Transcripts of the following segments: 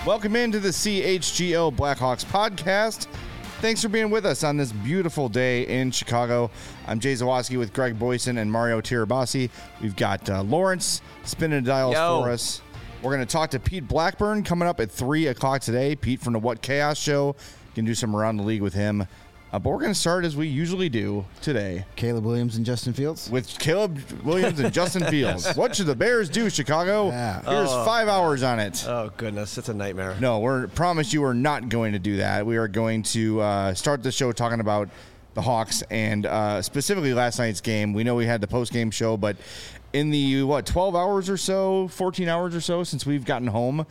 Welcome into the CHGO Blackhawks podcast. Thanks for being with us on this beautiful day in Chicago. I'm Jay Zawoski with Greg Boyson and Mario Tirabassi. We've got Lawrence spinning the dials for us. We're going to talk to Pete Blackburn coming up at 3 o'clock today. Pete from the What Chaos Show. You can do some around the league with him. But we're going to start as we usually do today. Caleb Williams and Justin Fields? With Caleb Williams and Justin Fields. What should the Bears do, Chicago? Yeah. Here's 5 hours on it. Oh, goodness. It's a nightmare. No, promise you we're not going to do that. We are going to start the show talking about the Hawks and specifically last night's game. We know we had the post-game show, but in the, 12 hours or so, 14 hours or so since we've gotten home,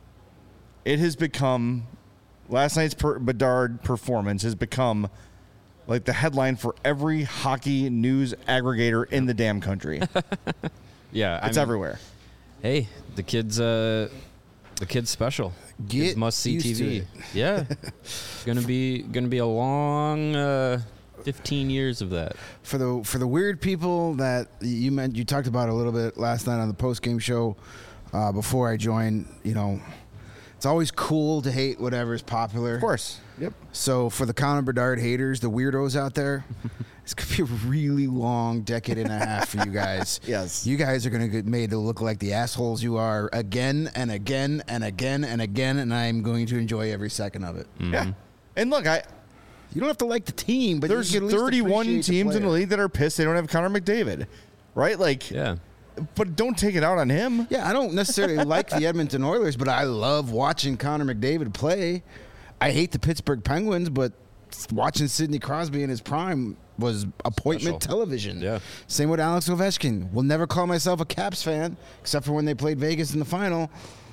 it has become... Last night's Bedard performance has become like the headline for every hockey news aggregator in the damn country. Yeah, it's everywhere. Hey, the kid's special. Get must see used TV. to it. Yeah, gonna be a long 15 years of that. For the weird people that you talked about a little bit last night on the post game show before I joined. It's always cool to hate whatever's popular. Of course. Yep. So for the Connor Bedard haters, the weirdos out there, it's going to be a really long decade and a half for you guys. Yes. You guys are going to get made to look like the assholes you are again and again and again and again, and I'm going to enjoy every second of it. Mm-hmm. Yeah. And look, you don't have to like the team, but there's you can at least 31 appreciate teams in the player. league that are pissed they don't have Connor McDavid, right? Like, Yeah. But don't take it out on him. Yeah, I don't necessarily like the Edmonton Oilers, but I love watching Connor McDavid play. I hate the Pittsburgh Penguins, but watching Sidney Crosby in his prime was appointment television. Yeah. Same with Alex Ovechkin. Will never call myself a Caps fan, except for when they played Vegas in the final.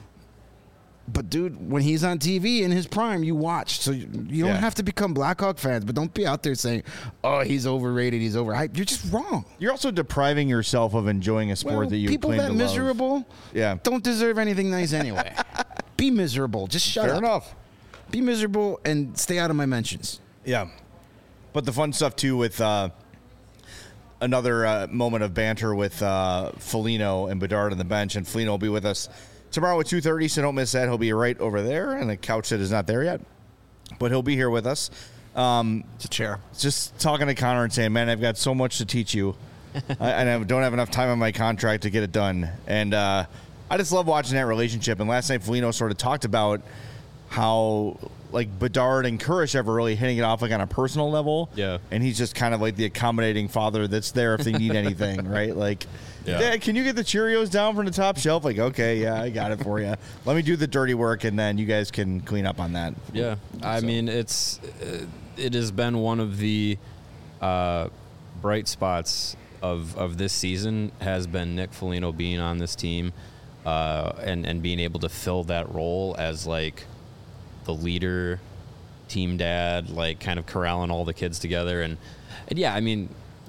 But, dude, when he's on TV in his prime, you watch. So you don't have to become Blackhawk fans, but don't be out there saying, oh, he's overrated, he's overhyped. You're just wrong. You're also depriving yourself of enjoying a sport that you people claim that to love. miserable don't deserve anything nice anyway. Be miserable. Just shut Fair up. enough. Be miserable and stay out of my mentions. Yeah. But the fun stuff, too, with another moment of banter with Foligno and Bedard on the bench, and Foligno will be with us tomorrow at 2:30, so don't miss that. He'll be right over there on the couch that is not there yet. But he'll be here with us. It's a chair. Just talking to Connor and saying, man, I've got so much to teach you. And I don't have enough time on my contract to get it done. And I just love watching that relationship. And last night, Foligno sort of talked about how, like, Bedard and Kurish are really hitting it off, like, on a personal level. Yeah. And he's just kind of like the accommodating father that's there if they need anything, right? Like, Dad, can you get the Cheerios down from the top shelf? Like, okay, yeah, I got it for you. Let me do the dirty work, and then you guys can clean up on that. Yeah, I mean, it has been one of the bright spots of this season has been Nick Foligno being on this team and being able to fill that role as, like, the leader, team dad, like, kind of corralling all the kids together. And yeah, I mean,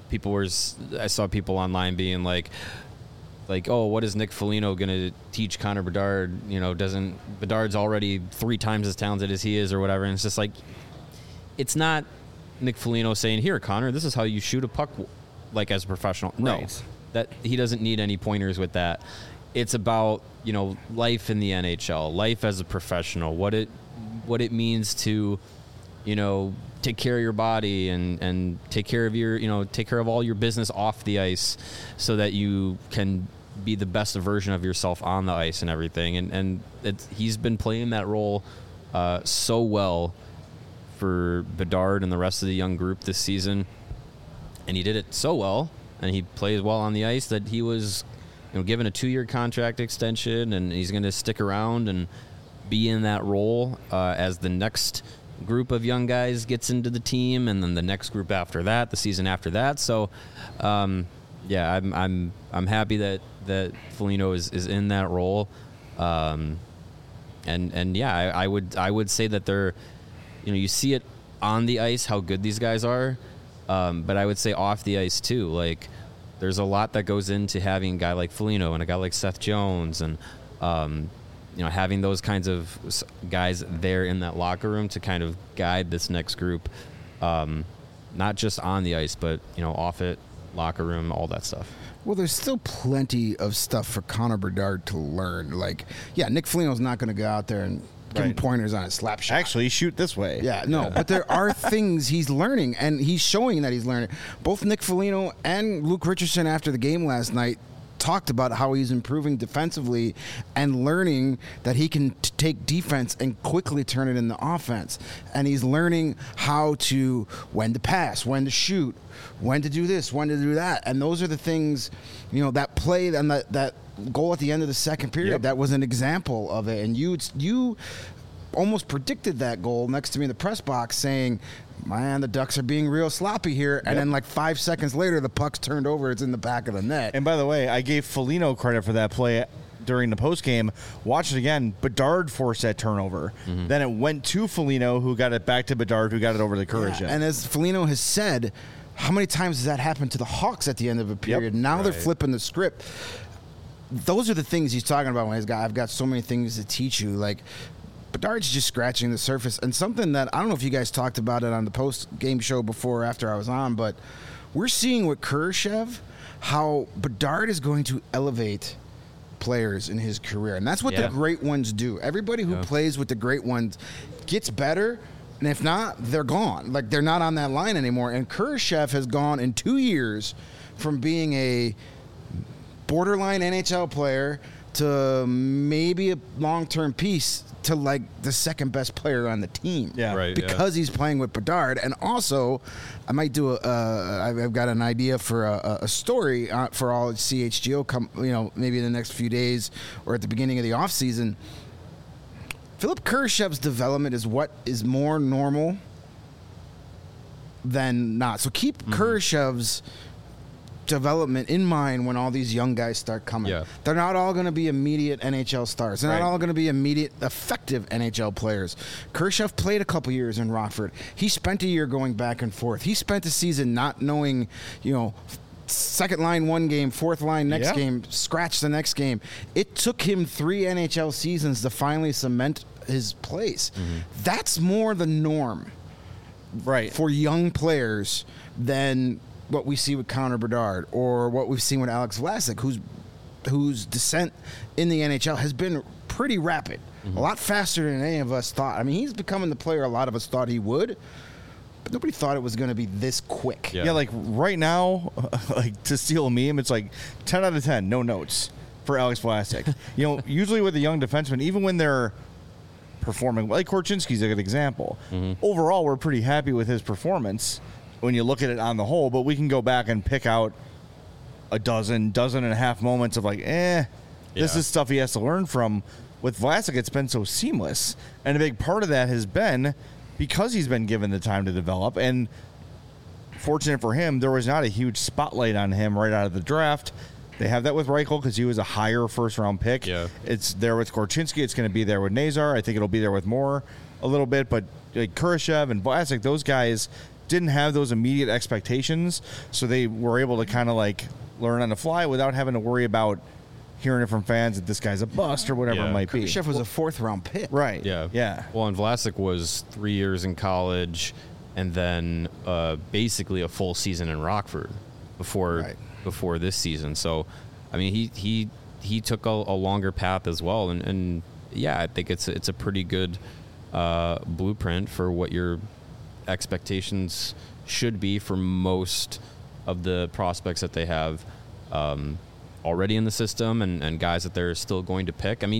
I saw people online being like, oh, what is Nick Foligno going to teach Connor Bedard? Bedard's already 3 times as talented as he is or whatever. And it's just like, it's not Nick Foligno saying, here, Connor, this is how you shoot a puck, like, as a professional. No, Right. that he doesn't need any pointers with that. It's about, life in the NHL, life as a professional, what it means to, take care of your body and take care of all your business off the ice so that you can be the best version of yourself on the ice and everything. And he's been playing that role so well for Bedard and the rest of the young group this season. And he did it so well, and he plays well on the ice that he was given a 2-year contract extension, and he's going to stick around and be in that role as the next group of young guys gets into the team, and then the next group after that, the season after that. So, yeah, I'm happy that Foligno is in that role, and yeah, I would say that they're, you see it on the ice how good these guys are, but I would say off the ice too. Like, there's a lot that goes into having a guy like Foligno and a guy like Seth Jones, and having those kinds of guys there in that locker room to kind of guide this next group, not just on the ice, but off it, locker room, all that stuff. Well, there's still plenty of stuff for Connor Bedard to learn. Like, yeah, Nick Foligno's not going to go out there and give him Right. pointers on his slap shot. Actually, shoot this way. Yeah, no, but there are things he's learning, and he's showing that he's learning. Both Nick Foligno and Luke Richardson after the game last night talked about how he's improving defensively and learning that he can take defense and quickly turn it into offense. And he's learning how to, when to pass, when to shoot, when to do this, when to do that. And those are the things, that play and that goal at the end of the second period, Yep. that was an example of it. And you almost predicted that goal next to me in the press box saying, man, the Ducks are being real sloppy here. And then 5 seconds later, the puck's turned over. It's in the back of the net. And by the way, I gave Foligno credit for that play during the postgame. Watch it again. Bedard forced that turnover. Then it went to Foligno, who got it back to Bedard, who got it over the Kurashev. And as Foligno has said, how many times has that happened to the Hawks at the end of a period? Now they're flipping the script. Those are the things he's talking about when he's got, I've got so many things to teach you. Like, Bedard's just scratching the surface. And something that, I don't know if you guys talked about it on the post-game show before or after I was on, but we're seeing with Kurashev how Bedard is going to elevate players in his career. And that's what the great ones do. Everybody who plays with the great ones gets better, and if not, they're gone. Like, they're not on that line anymore. And Kurashev has gone in 2 years from being a borderline NHL player to maybe a long-term piece to like the second best player on the team. Yeah. Right, Because he's playing with Bedard. And also, I might do I've got an idea for a story for all CHGO maybe in the next few days or at the beginning of the offseason. Philip Kurashev's development is what is more normal than not. So keep Kurashev's development in mind when all these young guys start coming. Yeah. They're not all going to be immediate NHL stars. They're Right. not all going to be immediate effective NHL players. Kurashev played a couple years in Rockford. He spent a year going back and forth. He spent a season not knowing, second line one game, fourth line next game, scratch the next game. It took him 3 NHL seasons to finally cement his place. That's more the norm Right. for young players than what we see with Connor Bedard or what we've seen with Alex Vlasic, whose descent in the NHL has been pretty rapid, a lot faster than any of us thought. I mean, he's becoming the player a lot of us thought he would, but nobody thought it was going to be this quick. Yeah. Yeah, like right now, like to steal a meme, it's like 10 out of 10, no notes for Alex Vlasic. Usually with a young defenseman, even when they're performing, like Korchinski's a good example. Overall, we're pretty happy with his performance when you look at it on the whole, but we can go back and pick out a dozen and a half moments of like, this is stuff he has to learn from. With Vlasic, it's been so seamless. And a big part of that has been because he's been given the time to develop. And fortunate for him, there was not a huge spotlight on him right out of the draft. They have that with Reichel because he was a higher first-round pick. Yeah. It's there with Korchinski. It's going to be there with Nazar. I think it'll be there with Moore a little bit. But like Kurashev and Vlasic, those guys didn't have those immediate expectations, so they were able to kind of like learn on the fly without having to worry about hearing it from fans that this guy's a bust or whatever it might be. Kurashev was a 4th-round pick. Right. Yeah. Well, and Vlasic was 3 years in college and then basically a full season in Rockford before this season. So, I mean, he took a longer path as well. And yeah, I think it's a pretty good blueprint for what your expectations should be for most of the prospects that they have already in the system and guys that they're still going to pick. I mean,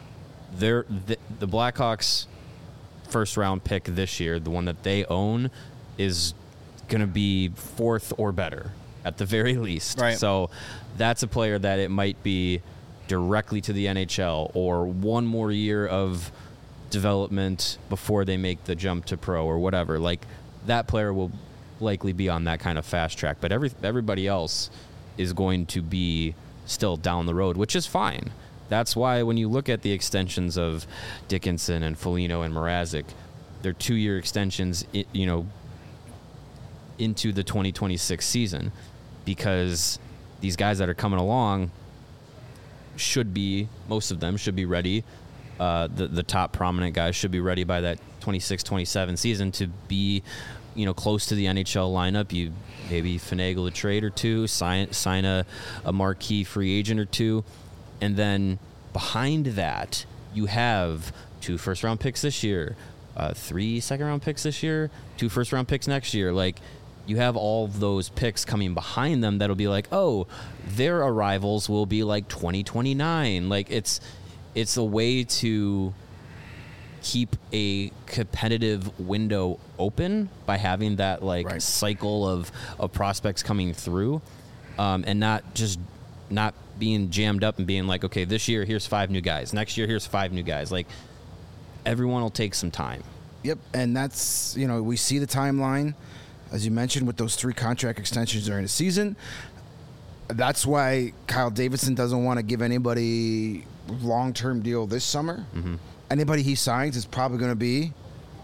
the Blackhawks first round pick this year, the one that they own, is going to be 4th or better at the very least. Right. So that's a player that it might be directly to the NHL or one more year of development before they make the jump to pro or whatever. Like, that player will likely be on that kind of fast track, but everybody else is going to be still down the road, which is fine. That's why when you look at the extensions of Dickinson and Foligno and Mrazek, they're 2-year extensions, into the 2026 season, because these guys that are coming along most of them should be ready. The top prominent guys should be ready by that 26-27 season to be, close to the NHL lineup. You maybe finagle a trade or two, sign a marquee free agent or two, and then behind that you have 2 first-round picks this year, 3 second-round picks this year, 2 first-round picks next year. Like, you have all of those picks coming behind them that'll be like, oh, their arrivals will be like 2029. Like, it's a way to keep a competitive window open by having that cycle of prospects coming through, and not being jammed up and being like, okay, this year here's 5 new guys, next year here's 5 new guys. Like, everyone will take some time. Yep, and that's, we see the timeline, as you mentioned, with those 3 contract extensions during the season. That's why Kyle Davidson doesn't want to give anybody long-term deal this summer. Mm-hmm. Anybody he signs is probably going to be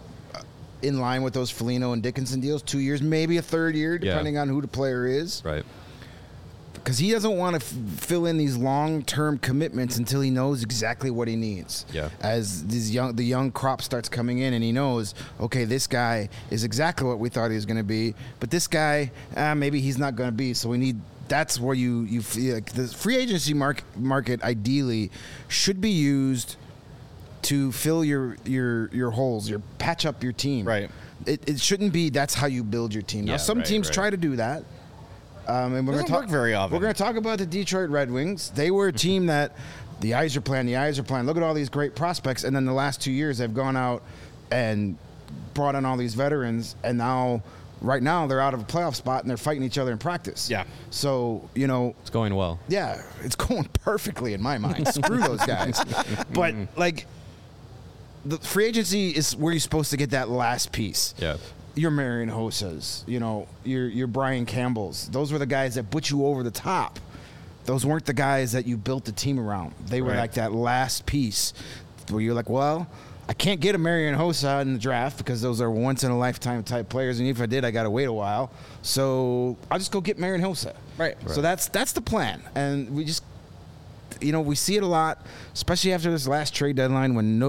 in line with those Foligno and Dickinson deals, 2 years, maybe a 3rd year, depending on who the player is. Right. Because he doesn't want to fill in these long-term commitments until he knows exactly what he needs. Yeah. As the young crop starts coming in, and he knows, okay, this guy is exactly what we thought he was going to be, but this guy, maybe he's not going to be. So we need. That's where you feel like the free agency market ideally should be used to fill your holes, patch up your team. Right. It shouldn't be that's how you build your team. Now, some teams try to do that. And we're going to talk very often. We're going to talk about the Detroit Red Wings. They were a team that the eyes are playing. Look at all these great prospects, and then the last 2 years they've gone out and brought in all these veterans, and right now they're out of a playoff spot and they're fighting each other in practice. Yeah. So it's going well. Yeah, it's going perfectly in my mind. Screw those guys. But the free agency is where you're supposed to get that last piece. Yeah. Your Marian Hosas, your Brian Campbells. Those were the guys that put you over the top. Those weren't the guys that you built the team around. They were like that last piece where you're like, well, I can't get a Marian Hossa in the draft because those are once-in-a-lifetime type players, and if I did, I got to wait a while. So I'll just go get Marian Hossa. Right. So that's the plan. And we just, we see it a lot, especially after this last trade deadline when,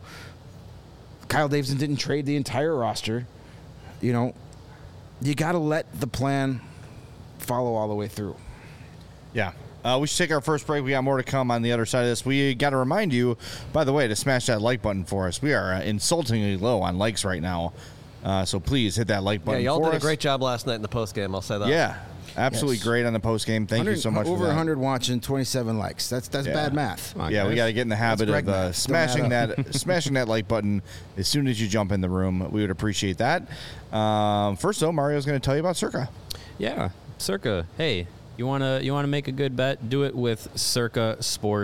Kyle Davidson didn't trade the entire roster. You got to let the plan follow all the way through. Yeah. We should take our first break. We got more to come on the other side of this. We got to remind you, by the way, to smash that like button for us. We are insultingly low on likes right now. So please hit that like button for us. Yeah, y'all did a great job last night in the postgame. I'll say that. Yeah. Absolutely great on the post game. Thank you so much. Over for that. 100 watching, 27 likes. That's bad math. Yeah, we got to get in the habit of smashing that like button as soon as you jump in the room. We would appreciate that. First, though, Mario's going to tell you about Circa. Yeah, Circa. Hey, you wanna make a good bet? Do it with Circa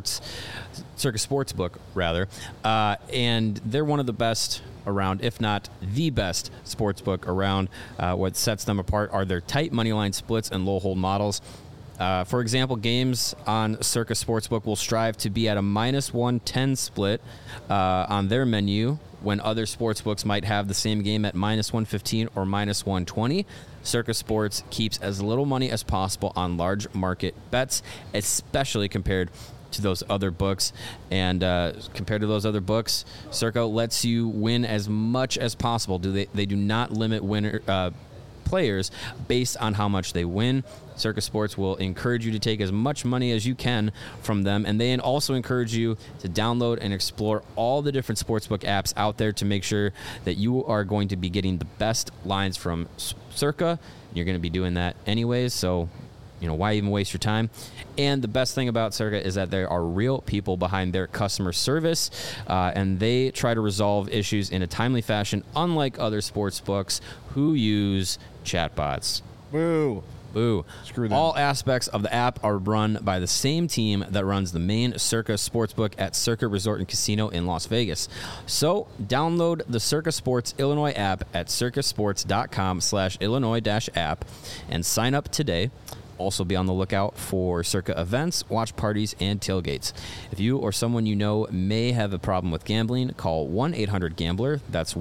Sportsbook rather, and they're one of the best around, if not the best sportsbook around. What sets them apart are their tight money line splits and low hold models. For example, games on Circa Sportsbook will strive to be at a -110 split on their menu when other sportsbooks might have the same game at -115 or -120. Circa Sports keeps as little money as possible on large market bets, especially compared to those other books. And compared to those other books, Circa lets you win as much as possible. They do not limit players based on how much they win. Circa Sports will encourage you to take as much money as you can from them, and they also encourage you to download and explore all the different sportsbook apps out there to make sure that you are going to be getting the best lines from Circa. You're going to be doing that anyways, so why even waste your time? And the best thing about Circa is that there are real people behind their customer service, and they try to resolve issues in a timely fashion, unlike other sports books who use chatbots. Boo. Screw them. All aspects of the app are run by the same team that runs the main Circa Sportsbook at Circa Resort and Casino in Las Vegas. So download the Circa Sports Illinois app at circasports.com/Illinois-app and sign up today. Also be on the lookout for Circa events, watch parties, and tailgates. If you or someone you know may have a problem with gambling, call 1-800-GAMBLER. That's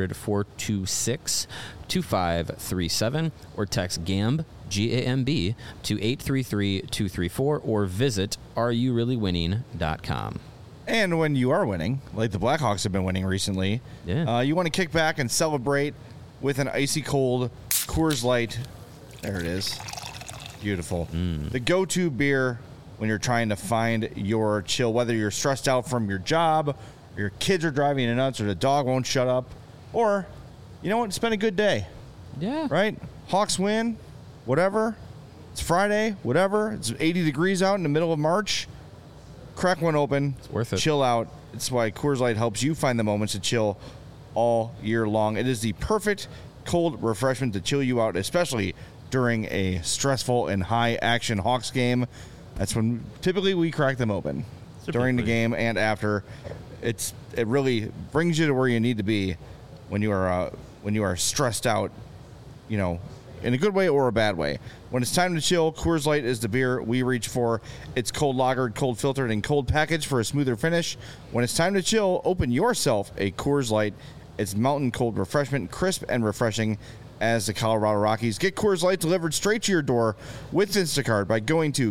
1-800-426-2537, or text GAMB, G-A-M-B, to 833-234, or visit areyoureallywinning.com. And when you are winning, like the Blackhawks have been winning recently, you want to kick back and celebrate with an icy cold Coors Light. There it is. Beautiful. The go-to beer when you're trying to find your chill, whether you're stressed out from your job, your kids are driving you nuts, or the dog won't shut up, or, you know what, spend a good day. Yeah. Right? Hawks win, whatever. It's Friday, whatever. It's 80 degrees out in the middle of March. Crack one open. It's worth it. Chill out. It's why Coors Light helps you find the moments to chill all year long. It is the perfect cold refreshment to chill you out, especially during a stressful and high-action Hawks game. That's when typically we crack them open. During the game and after. It really brings you to where you need to be when you are stressed out, you know, in a good way or a bad way. When it's time to chill, Coors Light is the beer we reach for. It's cold lagered, cold filtered, and cold packaged for a smoother finish. When it's time to chill, open yourself a Coors Light. It's mountain cold refreshment, crisp and refreshing as the Colorado Rockies. Get Coors Light delivered straight to your door with Instacart by going to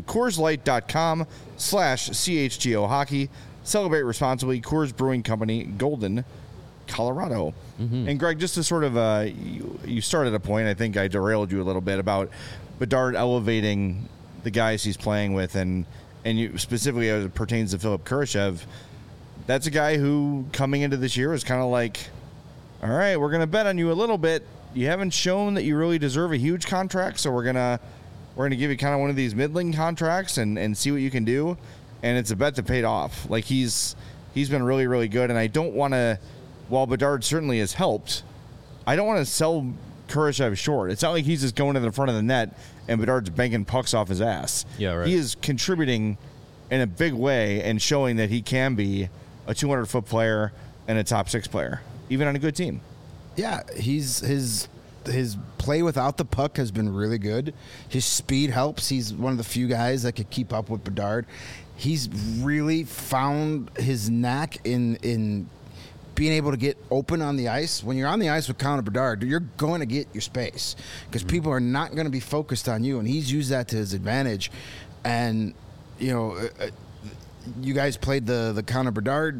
CoorsLight.com/CHGO Hockey. Celebrate responsibly. Coors Brewing Company, Golden, Colorado. Mm-hmm. And Greg, just to sort of, you started a point, I think I derailed you a little bit about Bedard elevating the guys he's playing with, and you specifically as it pertains to Philip Kurashev. That's a guy who, coming into this year, was kind of like, all right, we're going to bet on you a little bit. You haven't shown that you really deserve a huge contract, so we're gonna give you kind of one of these middling contracts and see what you can do. And it's a bet that paid off. Like he's been really, really good. And I don't want to, while Bedard certainly has helped, I don't want to sell Kurashev short. It's not like he's just going to the front of the net and Bedard's banking pucks off his ass. Yeah, right. He is contributing in a big way and showing that he can be a 200-foot player and a top 6 player, even on a good team. Yeah, his play without the puck has been really good. His speed helps. He's one of the few guys that could keep up with Bedard. He's really found his knack in being able to get open on the ice. When you're on the ice with Connor Bedard, you're going to get your space because people are not going to be focused on you, and he's used that to his advantage. And, you know, you guys played the Connor Bedard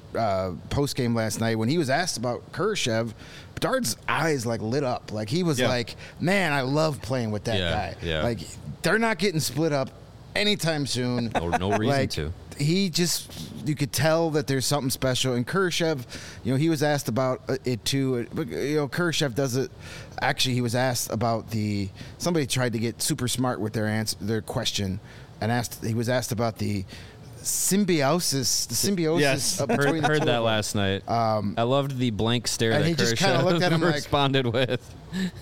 post game last night. When he was asked about Kurashev, Bedard's eyes like lit up. Like he was like, "Man, I love playing with that guy." Yeah. Like they're not getting split up anytime soon. No reason like, to. He just, you could tell that there's something special. And Kurashev, you know, he was asked about it too. But, you know, Kurashev does it. Actually, he was asked about somebody tried to get super smart with their answer, their question, and he was asked about the symbiosis. Yes. Between Heard that last night. I loved the blank stare and that he just kind of looked at him responded with.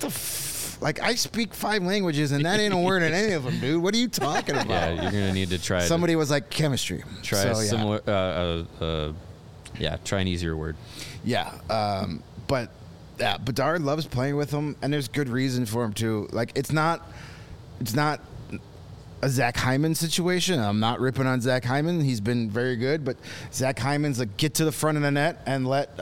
Like, I speak 5 languages, and that ain't a word in any of them, dude. What are you talking about? Yeah, you're gonna need to try. Somebody was like chemistry. Try a similar. Try an easier word. Yeah, but yeah, Bedard loves playing with him, and there's good reason for him too. Like, it's not a Zach Hyman situation. I'm not ripping on Zach Hyman. He's been very good, but Zach Hyman's like, get to the front of the net and let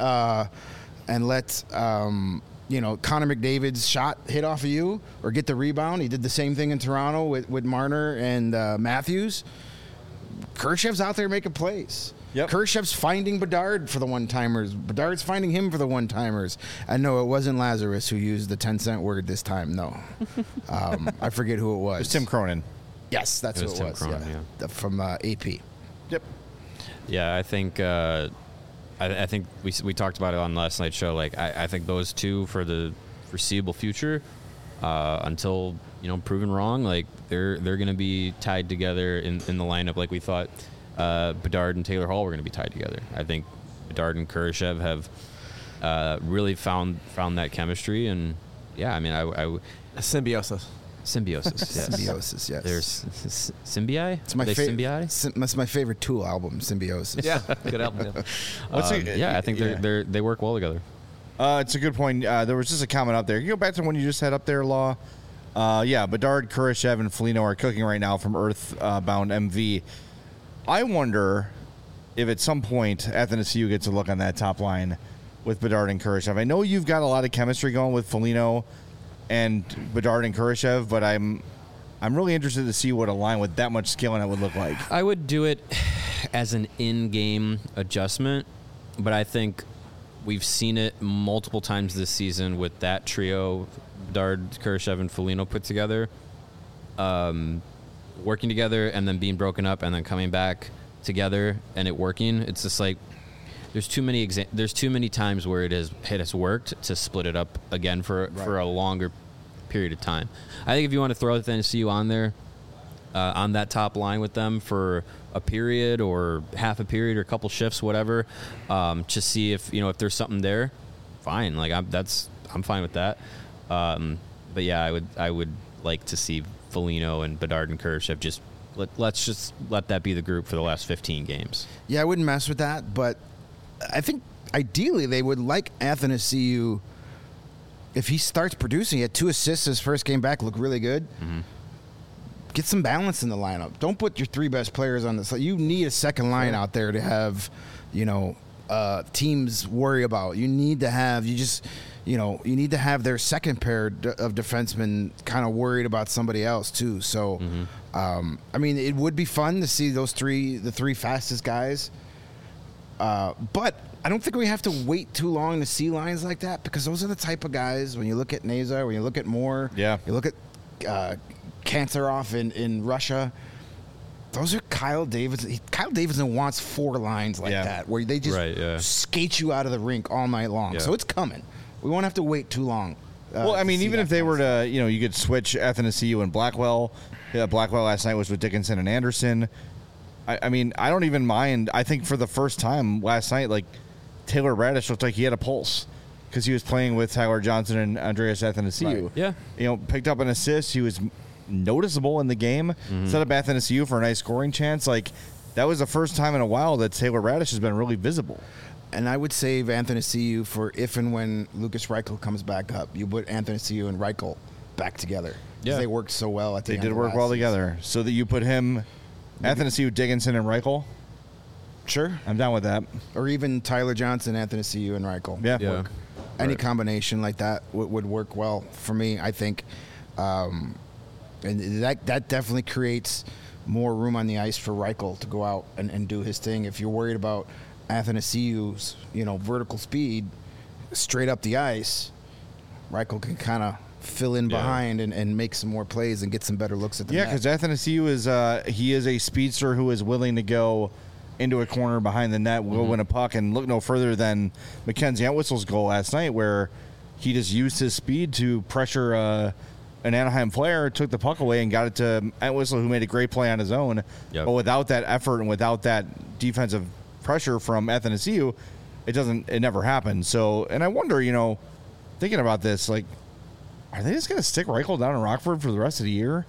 Connor McDavid's shot hit off of you or get the rebound. He did the same thing in Toronto with Marner and Matthews. Kurashev's out there making plays. Yep. Kurashev's finding Bedard for the one-timers. Bedard's finding him for the one-timers. And no, it wasn't Lazarus who used the 10-cent word this time. No. I forget who it was. It was Tim Cronin. Yes, that's who it Tim was. Cronin, From AP. Yep. Yeah, I think I think we talked about it on last night's show. Like I think those two for the foreseeable future, until proven wrong, like they're going to be tied together in the lineup. Like we thought Bedard and Taylor Hall were going to be tied together. I think Bedard and Kurashev have really found that chemistry, and yeah, I mean a symbiosis. Symbiosis, yes. Symbiosis, yes. There's Symbii. It's my favorite. That's my favorite Tool album, Symbiosis. Yeah, good album. Yeah, I think they work well together. It's a good point. There was just a comment up there. You go back to when you just had up there, Law. Bedard, Kurashev, and Foligno are cooking right now from Earthbound MV. I wonder if at some point Athens you gets a look on that top line with Bedard and Kurashev. I know you've got a lot of chemistry going with Foligno and Bedard and Kurashev, but I'm really interested to see what a line with that much skill in it would look like. I would do it as an in-game adjustment, but I think we've seen it multiple times this season with that trio, Bedard, Kurashev, and Foligno put together, working together and then being broken up and then coming back together and it working. It's just like there's too many times where it has worked to split it up again for a longer period of time. I think if you want to throw the NCU on there, on that top line with them for a period or half a period or a couple shifts, whatever, to see if there's something there, fine. Like I'm fine with that. But yeah, I would like to see Foligno and Bedard and Kurashev let's just let that be the group for the last 15 games. Yeah, I wouldn't mess with that, but I think ideally they would like Athanasiou. If he starts producing, he had 2 assists his first game back, look really good. Mm-hmm. Get some balance in the lineup. Don't put your 3 best players on this. You need a second line out there to have, teams worry about. You need to have their second pair of defensemen kind of worried about somebody else too. So, it would be fun to see the 3 fastest guys. But I don't think we have to wait too long to see lines like that, because those are the type of guys, when you look at Nazar, when you look at Moore, you look at Kantarov in Russia, those are Kyle Davidson. Kyle Davidson wants 4 lines like that, where they just skate you out of the rink all night long. So it's coming. We won't have to wait too long. Even if they were to, you could switch Athanasiou and Blackwell. Yeah, Blackwell last night was with Dickinson and Anderson. I don't even mind. I think for the first time last night, like, Taylor Radish looked like he had a pulse because he was playing with Tyler Johnson and Andreas Athanasiou. Right. Yeah. Picked up an assist. He was noticeable in the game. Set up Athanasiou for a nice scoring chance. Like, that was the first time in a while that Taylor Radish has been really visible. And I would save Athanasiou for if and when Lucas Reichel comes back up. You put Athanasiou and Reichel back together. Yeah. They worked so well at the end. They did work well together. So that you put him, Athanasiou, Dickinson, and Reichel. Sure. I'm down with that. Or even Tyler Johnson, Athanasiou, and Reichel. Yeah. Any combination like that would work well for me, I think. And that definitely creates more room on the ice for Reichel to go out and do his thing. If you're worried about Athanasiou's, vertical speed straight up the ice, Reichel can kind of fill in behind and make some more plays and get some better looks at the net. Yeah, because Athanasiou is a speedster who is willing to go into a corner behind the net, will win a puck, and look no further than Mackenzie Entwistle's goal last night, where he just used his speed to pressure an Anaheim player, took the puck away, and got it to Entwistle, who made a great play on his own. Yep. But without that effort and without that defensive pressure from Athanasiou, it never happened. So, and I wonder, thinking about this, like, are they just going to stick Reichel down in Rockford for the rest of the year?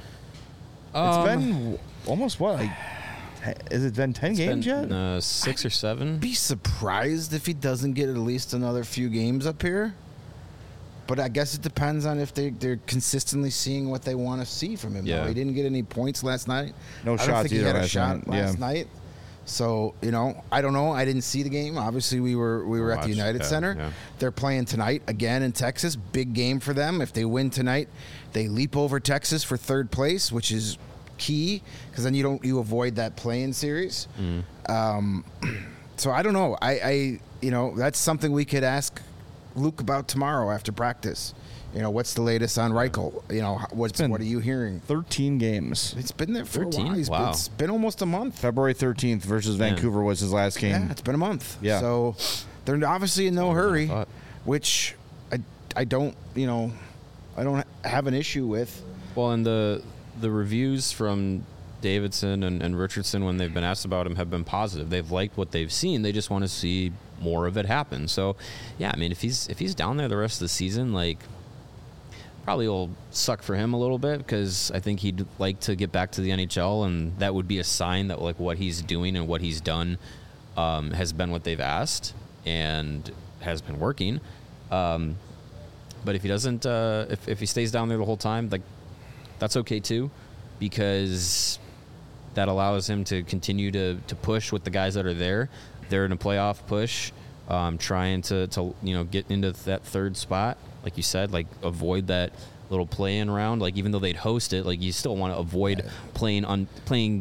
It's been almost has it been 10 games yet? 6 or 7. I'd be surprised if he doesn't get at least another few games up here. But I guess it depends on if they're consistently seeing what they want to see from him. Yeah. He didn't get any points last night. No shots either. I don't think he had a shot night. last night. So, I don't know. I didn't see the game. Obviously, we were at the United Center. Yeah. They're playing tonight again in Texas. Big game for them. If they win tonight, they leap over Texas for 3rd place, which is key, because then you avoid that play-in series. So I don't know. I that's something we could ask Luke about tomorrow after practice. What's the latest on Reichel? What are you hearing? 13 games. It's been there for 13? a while. Wow. It's been almost a month. February 13th versus Vancouver was his last game. Yeah, it's been a month. Yeah. So they're obviously in no hurry, which I don't have an issue with. Well, and the reviews from Davidson and Richardson, when they've been asked about him, have been positive. They've liked what they've seen. They just want to see more of it happen. So, yeah, if he's down there the rest of the season, like, probably will suck for him a little bit, because I think he'd like to get back to the NHL, and that would be a sign that, like, what he's doing and what he's done has been what they've asked and has been working. But if he doesn't, if he stays down there the whole time, like, that's okay too, because that allows him to continue to push with the guys that are there. They're in a playoff push, trying to get into that 3rd spot. Like you said, like, avoid that little play-in round. Like, even though they'd host it, like, you still want to avoid playing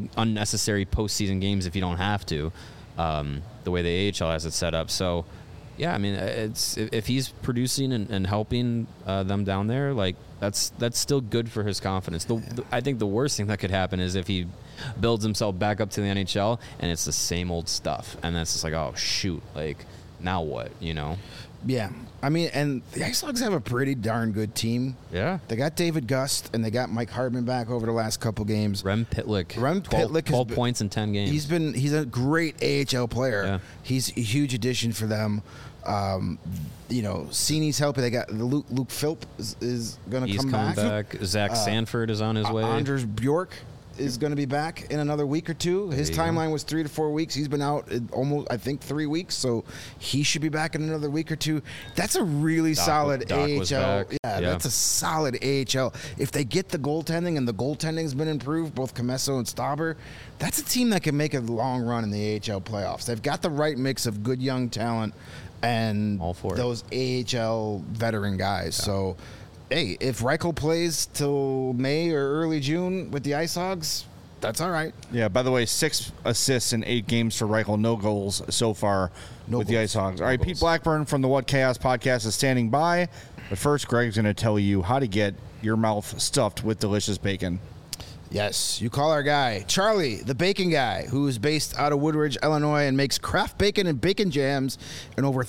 unnecessary postseason games if you don't have to. The way the AHL has it set up. So, yeah, I mean, it's if he's producing and helping them down there, like that's still good for his confidence. I think the worst thing that could happen is if he builds himself back up to the NHL and it's the same old stuff, and that's just like, oh shoot, like now what, you know? Yeah. I mean, and the Ice Dogs have a pretty darn good team. Yeah. They got David Gust, and they got Mike Hardman back over the last couple games. Rem Pitlick. 12 points in 10 games. He's a great AHL player. Yeah. He's a huge addition for them. You know, Cini's helping. They got Luke Philp is going to come back. He's coming back. Zach Sanford is on his way. Anders Bjork is going to be back in another week or two. His timeline was 3 to 4 weeks. He's been out almost, I think, 3 weeks, so he should be back in another week or two. That's a really solid AHL. Yeah, that's a solid AHL. If they get the goaltending, and the goaltending's been improved, both Comesso and Stauber, that's a team that can make a long run in the AHL playoffs. They've got the right mix of good young talent and those AHL veteran guys. Yeah. So, hey, if Reichel plays till May or early June with the Ice Hogs, that's all right. Yeah, by the way, 6 assists in 8 games for Reichel. No goals so far with the Ice Hogs. All right, Pete Blackburn from the What Chaos podcast is standing by. But first, Greg's going to tell you how to get your mouth stuffed with delicious bacon. Yes, you call our guy, Charlie, the bacon guy, who is based out of Woodridge, Illinois, and makes craft bacon and bacon jams in over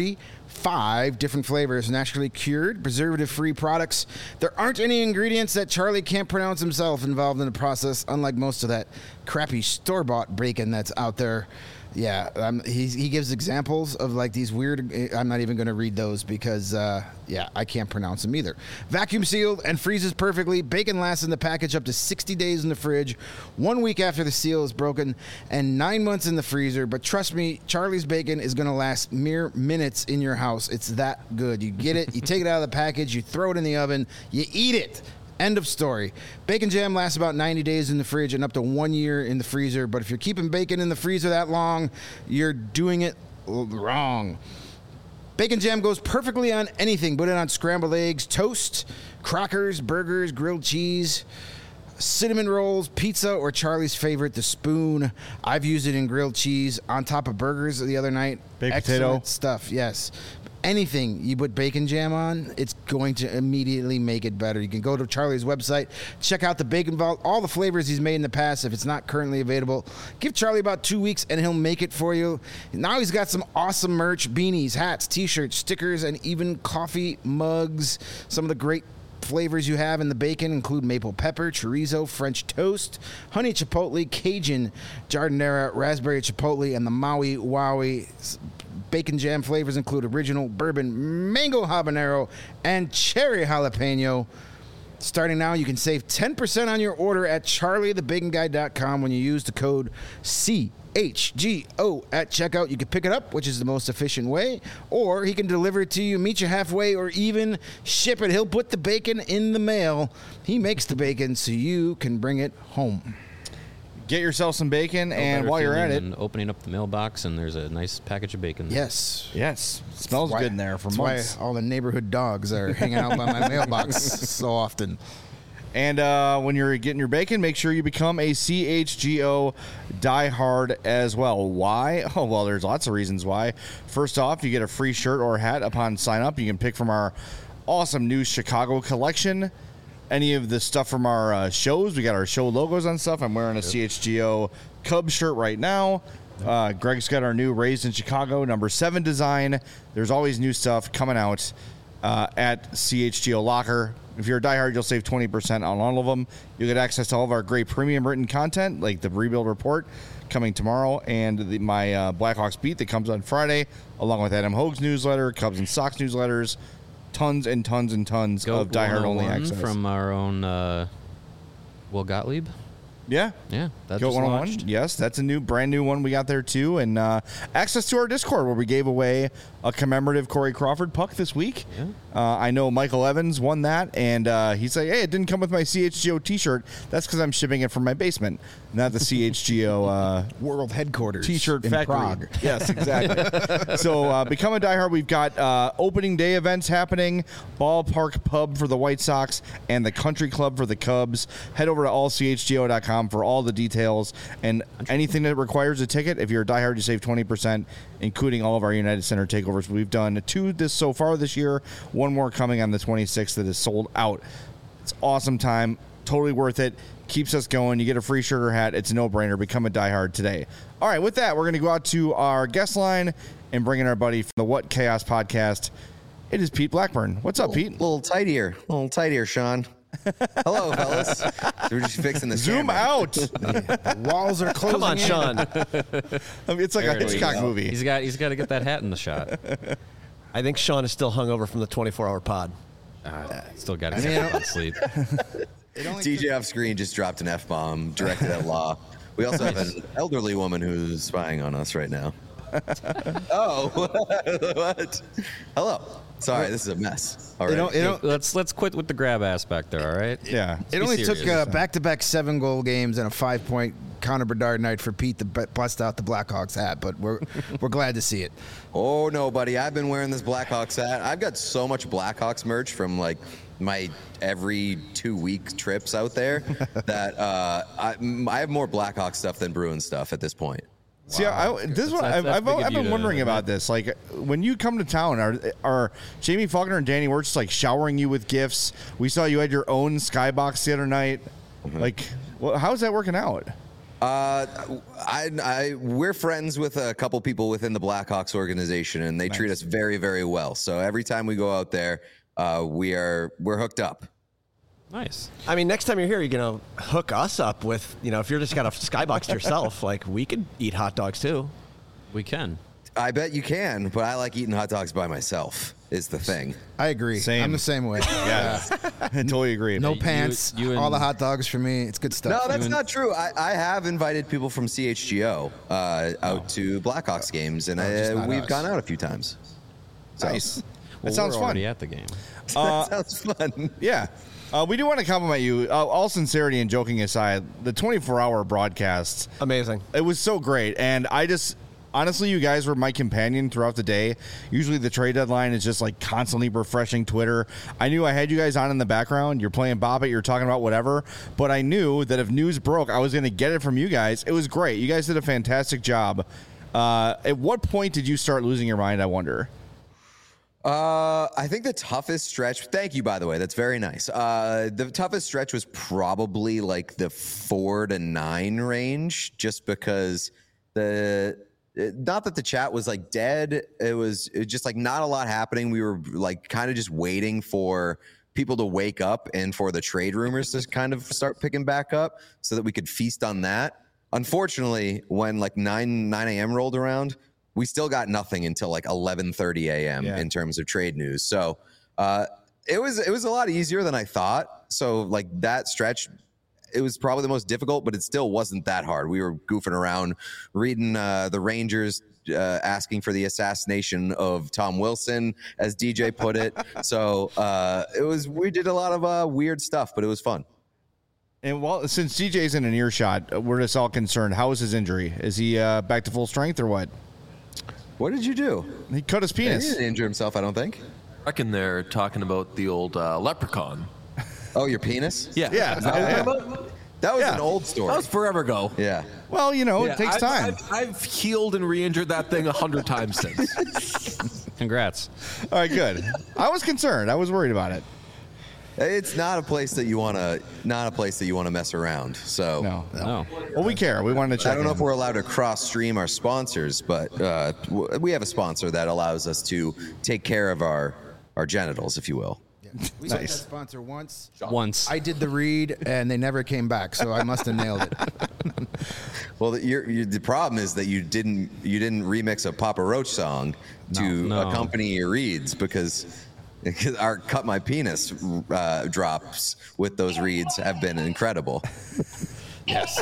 35 different flavors, naturally cured, preservative-free products. There aren't any ingredients that Charlie can't pronounce himself involved in the process, unlike most of that crappy store-bought bacon that's out there. Yeah, he gives examples of like these weird. I'm not even going to read those because, I can't pronounce them either. Vacuum sealed and freezes perfectly. Bacon lasts in the package up to 60 days in the fridge, 1 week after the seal is broken, and 9 months in the freezer. But trust me, Charlie's bacon is going to last mere minutes in your house. It's that good. You get it, you take it out of the package, you throw it in the oven, you eat it. End of story. Bacon jam lasts about 90 days in the fridge and up to 1 year in the freezer. But if you're keeping bacon in the freezer that long, you're doing it wrong. Bacon jam goes perfectly on anything. Put it on scrambled eggs, toast, crackers, burgers, grilled cheese, cinnamon rolls, pizza, or Charlie's favorite, the spoon. I've used it in grilled cheese on top of burgers the other night. Baked potato stuff, yes. Anything you put bacon jam on, it's going to immediately make it better. You can go to Charlie's website, check out the Bacon Vault, all the flavors he's made in the past. If it's not currently available, give Charlie about 2 weeks and he'll make it for you. Now he's got some awesome merch, beanies, hats, t-shirts, stickers, and even coffee mugs. Some of the great flavors you have in the bacon include maple pepper, chorizo, French toast, honey chipotle, Cajun, jardinera, raspberry chipotle, and the Maui Wowie. Bacon jam flavors include original, bourbon, mango habanero, and cherry jalapeno. Starting now, you can save 10% on your order at charliethebaconguy.com when you use the code CHGO at checkout. You can pick it up, which is the most efficient way, or he can deliver it to you, meet you halfway, or even ship it. He'll put the bacon in the mail. He makes the bacon so you can bring it home. Get yourself some bacon, and while you're at it, opening up the mailbox, and there's a nice package of bacon there. Yes. Smells good in there for months. That's why all the neighborhood dogs are hanging out by my mailbox so often. And when you're getting your bacon, make sure you become a CHGO diehard as well. Why? Oh, well, there's lots of reasons why. First off, you get a free shirt or hat upon sign up. You can pick from our awesome new Chicago collection. Any of the stuff from our shows, we got our show logos on stuff. I'm wearing a CHGO Cubs shirt right now. Greg's got our new Raised in Chicago #7 design. There's always new stuff coming out at CHGO Locker. If you're a diehard, you'll save 20% on all of them. You'll get access to all of our great premium written content, like the Rebuild Report coming tomorrow, and my Blackhawks Beat that comes on Friday, along with Adam Hogue's newsletter, Cubs and Sox newsletters. Tons and tons and tons of diehard-only access. From our own Will Gottlieb. Yeah. That Goat just 101. launched. Yes, that's a brand new one we got there too, and access to our Discord where we gave away a commemorative Corey Crawford puck this week. Yeah. I know Michael Evans won that, and he's like, "Hey, it didn't come with my CHGO T-shirt. That's because I'm shipping it from my basement, not the CHGO world headquarters T-shirt in factory." Prague. Yes, exactly. So become a diehard. We've got opening day events happening, Ballpark Pub for the White Sox, and the Country Club for the Cubs. Head over to allchgo.com for all the details and anything that requires a ticket. If you're a diehard, you save 20%, including all of our United Center Takeover takeovers. We've done 2 so far this year, 1 more coming on the 26th that is sold out. It's awesome time, totally worth it. Keeps us going. You get a free sugar hat. It's a no-brainer. Become a diehard today. All right, with that, we're going to go out to our guest line and bring in our buddy from the What Chaos podcast. It is Pete Blackburn. What's up, Pete? A little tight here, Sean. Hello, fellas. So we're just fixing the Zoom camera. out. The walls are closing. Come on, in. Sean. I mean, it's like There a it is. Hitchcock movie. He's got to get that hat in the shot. I think Sean is still hungover from the 24-hour pod. Still got to get on sleep. DJ off screen just dropped an F-bomb directed at Law. We also have an elderly woman who's spying on us right now. Oh, what? Hello. Sorry, this is a mess. All right. Let's quit with the grab aspect there, all right? Yeah. It only took back-to-back 7-goal games and a 5-point Connor Bedard night for Pete to bust out the Blackhawks hat, but we're glad to see it. Oh, no, buddy. I've been wearing this Blackhawks hat. I've got so much Blackhawks merch from, like, my every 2-week trips out there that I have more Blackhawks stuff than Bruins stuff at this point. See, this is what That's I've big of you been to wondering admit. about this. Like, when you come to town, are Jamie Faulkner and Danny Wirtz like showering you with gifts? We saw you had your own skybox the other night. Mm-hmm. Like, how's that working out? We're friends with a couple people within the Blackhawks organization, and they treat us very, very well. So every time we go out there, we're hooked up. Nice. I mean, next time you're here, you're going to hook us up with, if you're just got a skybox to yourself, like, we could eat hot dogs too. We can. I bet you can, but I like eating hot dogs by myself, is the thing. I agree. Same. I'm the same way. Yeah, I totally agree. No You- pants. you and- all the hot dogs for me. It's good No, stuff. that's not true. I have invited people from CHGO out to Blackhawks games, and just not we've us. gone out a few times. So, Nice. Well, That sounds we're fun. already at the game. that sounds fun. Yeah. We do want to compliment you. All sincerity and joking aside, the 24-hour broadcast, Amazing. it was so great. And honestly, you guys were my companion throughout the day. Usually the trade deadline is just like constantly refreshing Twitter. I knew I had you guys on in the background. You're playing Bop It, you're talking about whatever. But I knew that if news broke, I was going to get it from you guys. It was great. You guys did a fantastic job. At what point did you start losing your mind, I wonder? I think the toughest stretch. Thank you, by the way. That's very nice. The toughest stretch was probably like the 4 to 9 range, just because not that the chat was like dead. It was just like not a lot happening. We were like kind of just waiting for people to wake up and for the trade rumors to kind of start picking back up so that we could feast on that. Unfortunately, when like 9 a.m. rolled around, we still got nothing until like 11:30 a.m. in terms of trade news. So it was a lot easier than I thought. So like that stretch, it was probably the most difficult, but it still wasn't that hard. We were goofing around, reading the Rangers asking for the assassination of Tom Wilson, as DJ put it. So we did a lot of weird stuff, but it was fun. And since DJ's in an earshot, we're just all concerned. How is his injury? Is he back to full strength or what? What did you do? He cut his He penis. didn't injure himself, I don't think. I reckon they're talking about the old leprechaun. Oh, your penis? Yeah. Yeah. Is that what you're Yeah. talking about? That was Yeah. an old story. That was forever ago. Yeah. Well, Yeah, it takes time. I've healed and re-injured that thing 100 times since. Congrats. All right, good. I was concerned. I was worried about it. It's not a place that you want to mess around. So No. Well, we care. We wanted to check. I don't know in. if we're allowed to cross stream our sponsors, but we have a sponsor that allows us to take care of our genitals, if you will. We had that sponsor once. Once. I did the read, and they never came back, so I must have nailed it. Well, the problem is that you didn't remix a Papa Roach song to No. accompany your reads because our Cut My Penis drops with those reads have been incredible. Yes.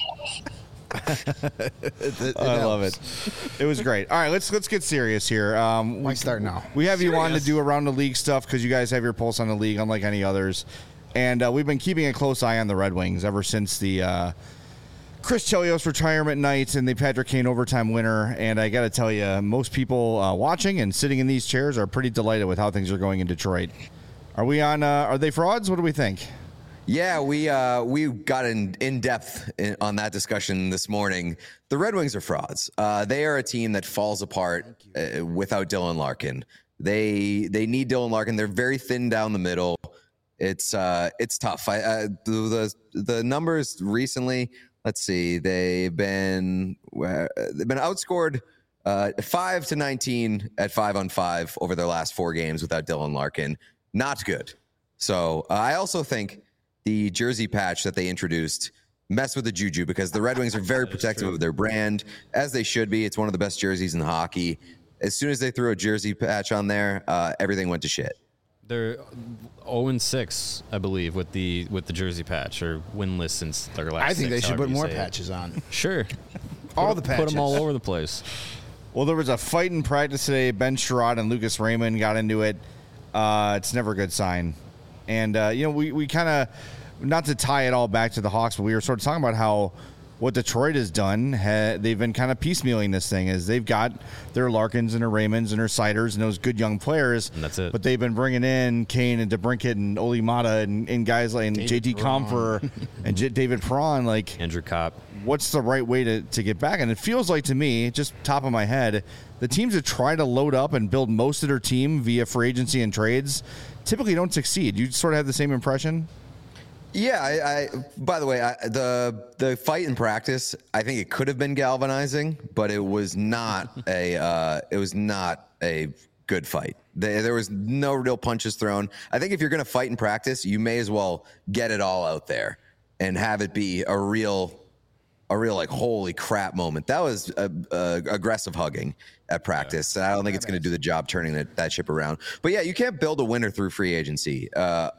I love it. It was great. All right, let's get serious here. Why start now? We have you on to do around the league stuff because you guys have your pulse on the league, unlike any others. And we've been keeping a close eye on the Red Wings ever since the Chris Chelios retirement night and the Patrick Kane overtime winner. And I got to tell you, most people watching and sitting in these chairs are pretty delighted with how things are going in Detroit. Are we on? Are they frauds? What do we think? Yeah, we got in depth on that discussion this morning. The Red Wings are frauds. They are a team that falls apart without Dylan Larkin. They need Dylan Larkin. They're very thin down the middle. It's tough. The numbers recently. Let's see. They've been outscored 5-19 at 5-on-5 over their last 4 games without Dylan Larkin. Not good. So I also think the jersey patch that they introduced messed with the juju because the Red Wings are very protective of their brand, as they should be. It's one of the best jerseys in hockey. As soon as they threw a jersey patch on there, everything went to shit. They're 0-6, I believe, with the jersey patch, or winless since their last. I think they should put more it. patches on. Sure, All the patches. Put them all over the place. Well, there was a fight in practice today. Ben Sherrod and Lucas Raymond got into it. It's never a good sign. And, we kind of, not to tie it all back to the Hawks, but we were sort of talking about how what Detroit has done, they've been kind of piecemealing this thing, is they've got their Larkins and their Raymonds and their Siders and those good young players. And that's it. But they've been bringing in Kane and DeBrincat and Oli Mata and guys like JT Compher and David Perron. Like Andrew Kopp. What's the right way to get back? And it feels like to me, just top of my head, the teams that try to load up and build most of their team via free agency and trades typically don't succeed. You sort of have the same impression? Yeah, I by the way, the fight in practice, I think it could have been galvanizing, but it was not a good fight. There was no real punches thrown. I think if you're going to fight in practice, you may as well get it all out there and have it be a real like holy crap moment. That was aggressive hugging at practice. Yeah. I don't think it's going to do the job turning that ship around. But yeah, you can't build a winner through free agency.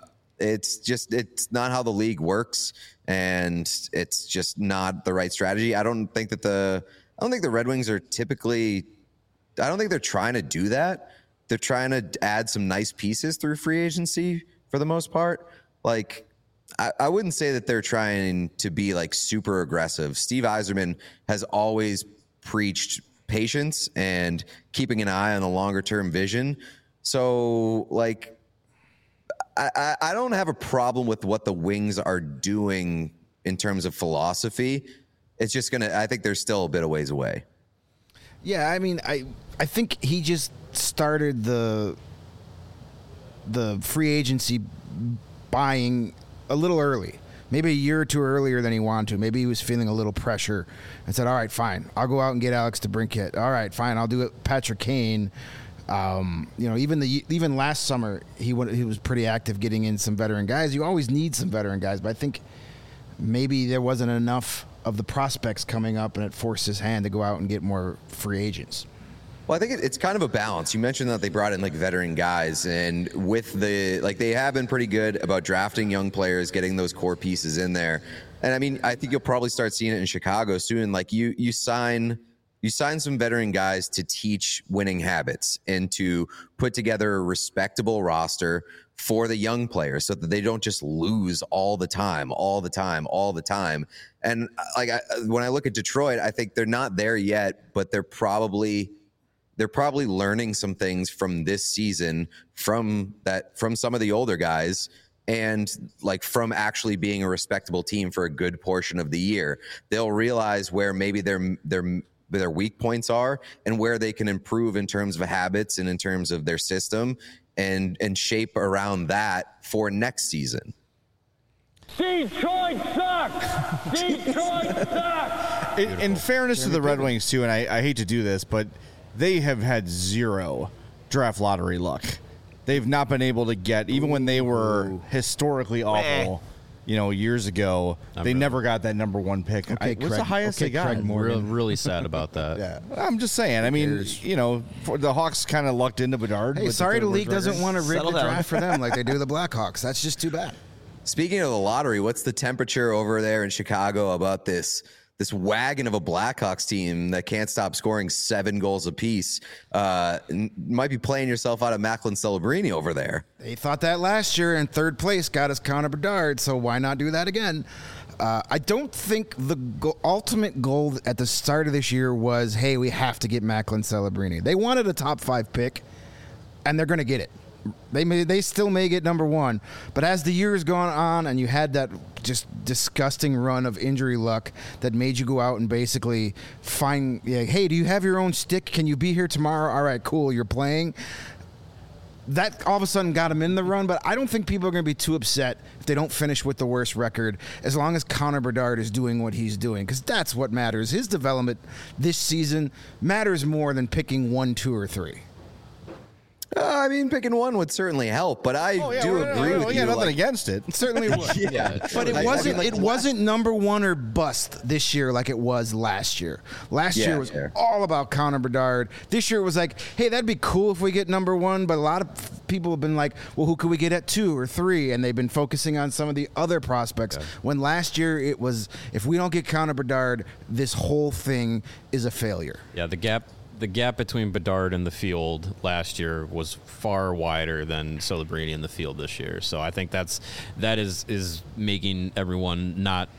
It's not how the league works, and it's just not the right strategy. I don't think the Red Wings are typically. I don't think they're trying to do that. They're trying to add some nice pieces through free agency for the most part. Like, I wouldn't say that they're trying to be like super aggressive. Steve Yzerman has always preached patience and keeping an eye on the longer term vision. So like. I don't have a problem with what the Wings are doing in terms of philosophy. It's just I think they're still a bit of ways away. Yeah, I mean, I think he just started the free agency buying a little early. Maybe a year or two earlier than he wanted to. Maybe he was feeling a little pressure and said, all right, fine, I'll go out and get Alex DeBrincat. All right, fine, I'll do it, Patrick Kane. Even last summer he was pretty active getting in some veteran guys. You always need some veteran guys, but I think maybe there wasn't enough of the prospects coming up, and it forced his hand to go out and get more free agents. Well, I think it's kind of a balance. You mentioned that they brought in like veteran guys, and with they have been pretty good about drafting young players, getting those core pieces in there. And I mean, I think you'll probably start seeing it in Chicago soon. Like you sign some veteran guys to teach winning habits and to put together a respectable roster for the young players so that they don't just lose all the time. And when I look at Detroit, I think they're not there yet, but they're probably learning some things from this season from some of the older guys, and like from actually being a respectable team for a good portion of the year. They'll realize where maybe their weak points are and where they can improve in terms of habits and in terms of their system, and shape around that for next season. Detroit sucks! In fairness to the Red Wings too, and I hate to do this, but they have had zero draft lottery luck. They've not been able to get, even when they were historically awful, years ago, they never got that number one pick. What's the highest they got? I'm really sad about that. Yeah. I'm just saying. I mean, the Hawks kind of lucked into Bedard. Hey, sorry the league doesn't want to rig the draft for them like they do the Blackhawks. That's just too bad. Speaking of the lottery, what's the temperature over there in Chicago about this wagon of a Blackhawks team that can't stop scoring 7 goals apiece? Might be playing yourself out of Macklin Celebrini over there. They thought that last year, and third place got us Connor Bedard, so why not do that again? I don't think the ultimate goal at the start of this year was, hey, we have to get Macklin Celebrini. They wanted a top 5 pick, and they're going to get it. They still may get number one, but as the years gone on, and you had that just disgusting run of injury luck that made you go out and basically find, hey, do you have your own stick? Can you be here tomorrow? All right, cool, you're playing. That all of a sudden got him in the run, but I don't think people are going to be too upset if they don't finish with the worst record, as long as Connor Bedard is doing what he's doing, because that's what matters. His development this season matters more than picking 1, 2, or 3. I mean, picking one would certainly help, but I do agree with you. Yeah, nothing against it. It certainly would. But it wasn't number one or bust this year like it was last year. Last year was all about Connor Bedard. This year it was like, hey, that'd be cool if we get number one, but a lot of people have been like, well, who could we get at 2 or 3? And they've been focusing on some of the other prospects. Yeah. When last year it was, if we don't get Connor Bedard, this whole thing is a failure. Yeah, the gap between Bedard and the field last year was far wider than Celebrini in the field this year. So I think that is making everyone not,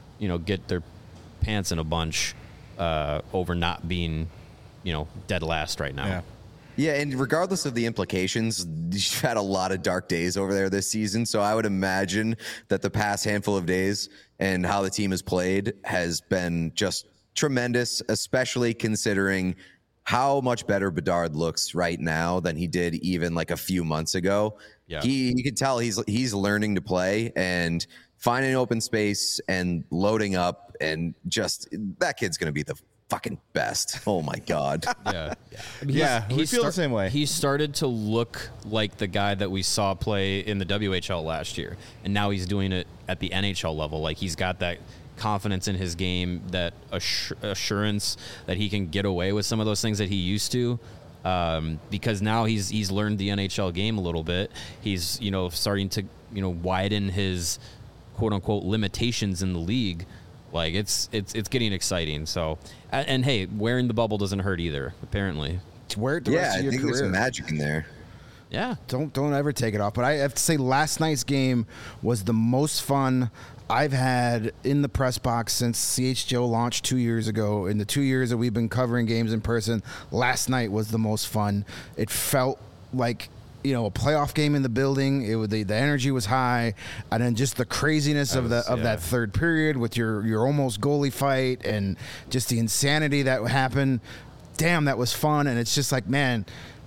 get their pants in a bunch over not being, dead last right now. Yeah. Yeah, and regardless of the implications, you've had a lot of dark days over there this season. So I would imagine that the past handful of days and how the team has played has been just tremendous, especially considering how much better Bedard looks right now than he did even like a few months ago. Yeah. You can tell he's learning to play and finding open space and loading up, and just that kid's going to be the fucking best. Oh my God. Yeah. We feel the same way. He started to look like the guy that we saw play in the WHL last year, and now he's doing it at the NHL level. Like, he's got that confidence in his game, that assurance that he can get away with some of those things that he used to, because now he's learned the NHL game a little bit. He's starting to widen his quote unquote limitations in the league. Like, it's getting exciting. So, and hey, wearing the bubble doesn't hurt either, apparently. Wear it the rest of your career. There's some magic in there. Yeah, don't ever take it off. But I have to say, last night's game was the most fun I've had in the press box since CHGO launched 2 years ago. In the 2 years that we've been covering games in person, last night was the most fun. It felt like, a playoff game in the building. The energy was high, and then just the craziness of that third period with your almost goalie fight and just the insanity that happened. Damn, that was fun. And it's just like, man,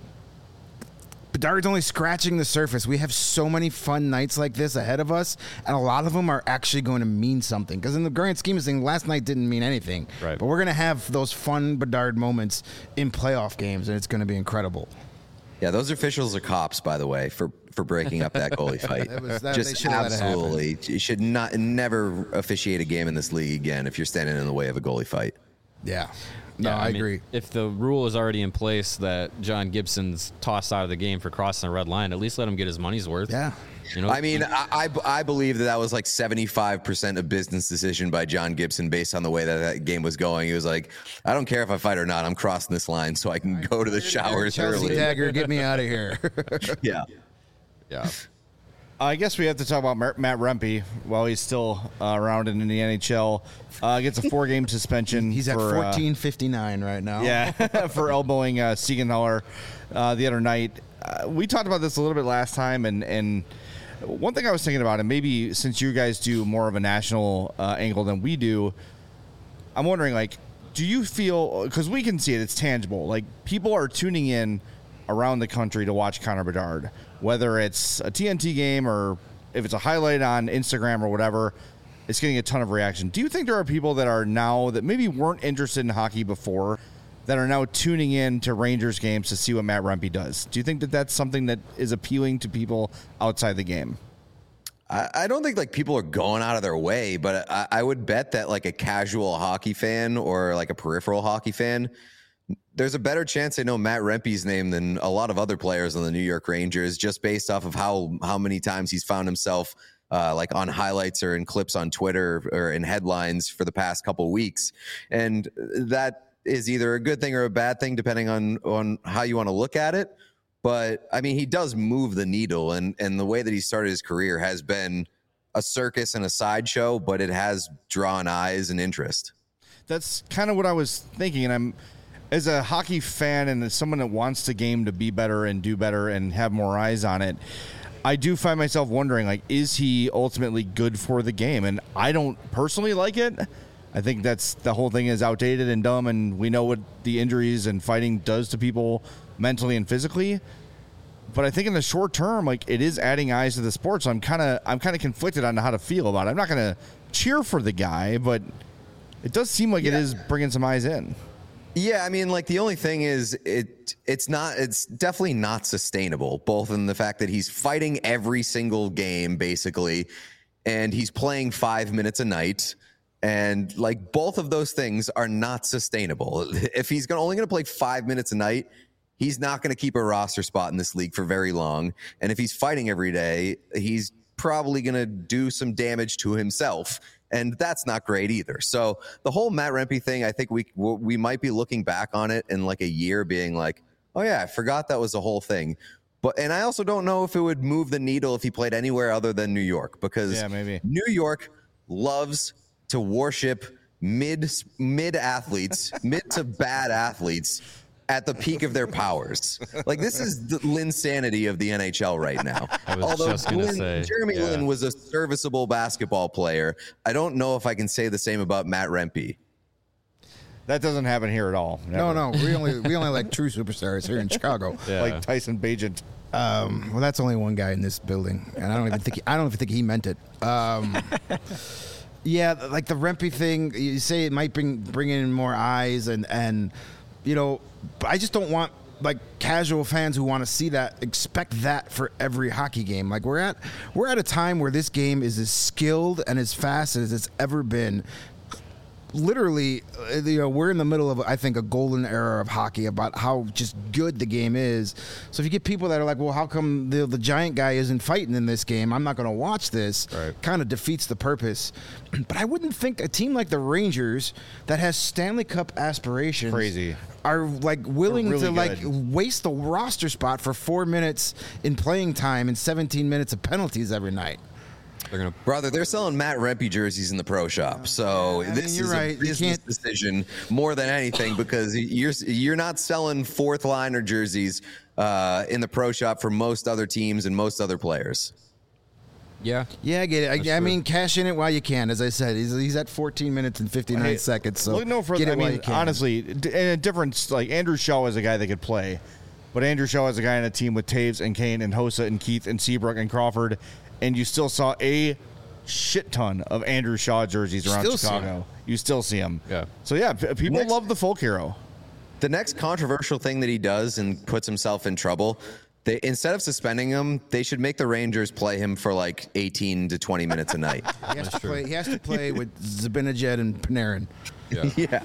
Bedard's only scratching the surface. We have so many fun nights like this ahead of us, and a lot of them are actually going to mean something. Because in the grand scheme of things, last night didn't mean anything. Right. But we're going to have those fun Bedard moments in playoff games, and it's going to be incredible. Yeah, those officials are cops, by the way, for breaking up that goalie fight. Just absolutely, you should never officiate a game in this league again if you're standing in the way of a goalie fight. Yeah. No, I agree. If the rule is already in place that John Gibson's tossed out of the game for crossing the red line, at least let him get his money's worth. Yeah. I mean, I believe that was like 75% a business decision by John Gibson based on the way that game was going. He was like, I don't care if I fight or not. I'm crossing this line so I can go to the showers Chelsea early. Dagger, get me out of here. Yeah. I guess we have to talk about Matt Rempe while he's still around in the NHL. Gets a 4-game suspension. He's at 14.59 right now. Yeah, for elbowing Siegenthaler the other night. We talked about this a little bit last time, and one thing I was thinking about, and maybe since you guys do more of a national angle than we do, I'm wondering, like, do you feel, because we can see it, it's tangible, like people are tuning in around the country to watch Connor Bedard, whether it's a TNT game or if it's a highlight on Instagram or whatever, it's getting a ton of reaction. Do you think there are people that are now, that maybe weren't interested in hockey before, that are now tuning in to Rangers games to see what Matt Rempe does? Do you think that that's something that is appealing to people outside the game? I don't think like people are going out of their way, but I would bet that like a casual hockey fan or like a peripheral hockey fan, there's a better chance they know Matt Rempe's name than a lot of other players on the New York Rangers, just based off of how many times he's found himself like on highlights or in clips on Twitter or in headlines for the past couple weeks. And that is either a good thing or a bad thing, depending on how you want to look at it. But I mean, he does move the needle, and the way that he started his career has been a circus and a sideshow, but it has drawn eyes and interest. That's kind of what I was thinking, and as a hockey fan and as someone that wants the game to be better and do better and have more eyes on it, I do find myself wondering, like, is he ultimately good for the game? And I don't personally like it. I think that's the whole thing is outdated and dumb, and we know what the injuries and fighting does to people mentally and physically. But I think in the short term, like, it is adding eyes to the sport. So I'm kind of conflicted on how to feel about it. I'm not going to cheer for the guy, but it does seem like it is bringing some eyes in. Yeah, I mean, like, the only thing is it's definitely not sustainable, both in the fact that he's fighting every single game, basically, and he's playing 5 minutes a night. And, like, both of those things are not sustainable. If he's only going to play 5 minutes a night, he's not going to keep a roster spot in this league for very long. And if he's fighting every day, he's probably going to do some damage to himself. And that's not great either. So the whole Matt Rempe thing, I think we might be looking back on it in like a year being like, oh yeah, I forgot that was the whole thing. And I also don't know if it would move the needle if he played anywhere other than New York, because maybe New York loves to worship mid athletes, mid to bad athletes at the peak of their powers. Like, this is the Linsanity of the NHL right now. I was just going to say. Jeremy Lin was a serviceable basketball player. I don't know if I can say the same about Matt Rempe. That doesn't happen here at all. Never. No. We only like true superstars here in Chicago. Yeah. Like Tyson Bagent. Well, that's only one guy in this building, and I don't even think he meant it. Yeah, like the Rempe thing, you say it might bring in more eyes, and you know, I just don't want, like, casual fans who want to see that expect that for every hockey game. Like, we're at a time where this game is as skilled and as fast as it's ever been. Literally, you know, we're in the middle of, I think, a golden era of hockey about how just good the game is. So if you get people that are like, well, how come the giant guy isn't fighting in this game? I'm not going to watch this. Right. Kind of defeats the purpose. But I wouldn't think a team like the Rangers that has Stanley Cup aspirations Crazy. are like willing They're really to good. like waste the roster spot for 4 minutes in playing time and 17 minutes of penalties every night. They're gonna. Brother, they're selling Matt Rempe jerseys in the pro shop. So I mean, this you're is right. a You business can't- decision more than anything, because you're not selling fourth liner jerseys in the pro shop for most other teams and most other players. Yeah. Yeah, I get it. I true. mean, cash in it while you can. As I said, he's at 14 minutes and 59 seconds. So look no further. get it I while mean, you can. honestly, in a difference, like Andrew Shaw is a guy that could play, but Andrew Shaw is a guy on a team with Taves and Kane and Hossa and Keith and Seabrook and Crawford, and you still saw a shit ton of Andrew Shaw jerseys around Still see Chicago. You still see them. Yeah. So yeah, people Next- love the folk hero. The next controversial thing that he does and puts himself in trouble, instead of suspending him, they should make the Rangers play him for like 18 to 20 minutes a night. He has to play with Zibanejad and Panarin. Yeah.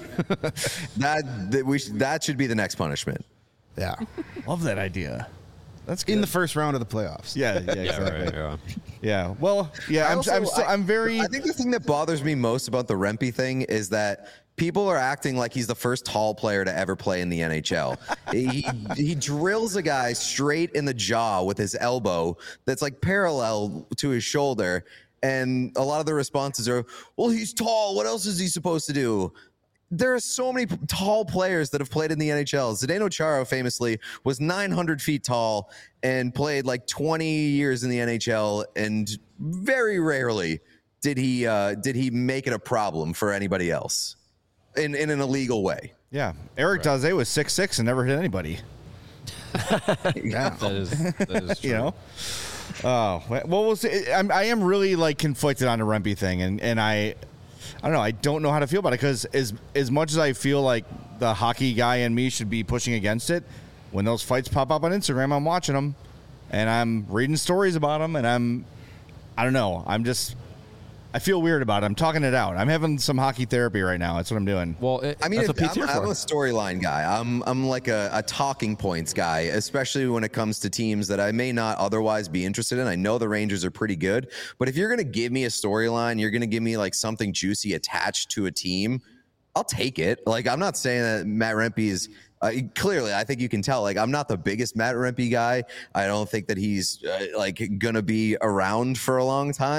That should be the next punishment. Yeah. Love that idea. That's good. In the first round of the playoffs. yeah, Yeah. exactly. Right. Yeah. Yeah. Well, yeah. I'm very. I think the thing that bothers me most about the Rempe thing is that people are acting like he's the first tall player to ever play in the NHL. he drills a guy straight in the jaw with his elbow that's like parallel to his shoulder. And a lot of the responses are, well, he's tall. What else is he supposed to do? There are so many tall players that have played in the NHL. Zdeno Chara famously was 900 feet tall and played like 20 years in the NHL, and very rarely did he make it a problem for anybody else in an illegal way. Yeah. Eric Daze was 6'6" and never hit anybody. Yeah. That is true. You know. Oh well, we'll see. I am really like conflicted on the Rempe thing, and I don't know. I don't know how to feel about it, because as much as I feel like the hockey guy in me should be pushing against it, when those fights pop up on Instagram, I'm watching them, and I'm reading stories about them, and I don't know. I feel weird about it. I'm talking it out. I'm having some hockey therapy right now. That's what I'm doing. Well, I mean, that's what Pete's here I'm for. a storyline guy. I'm like a talking points guy, especially when it comes to teams that I may not otherwise be interested in. I know the Rangers are pretty good, but if you're going to give me a storyline, you're going to give me like something juicy attached to a team, I'll take it. Like, I'm not saying that Matt Rempe is clearly, I think you can tell, like, I'm not the biggest Matt Rempe guy. I don't think that he's like going to be around for a long time.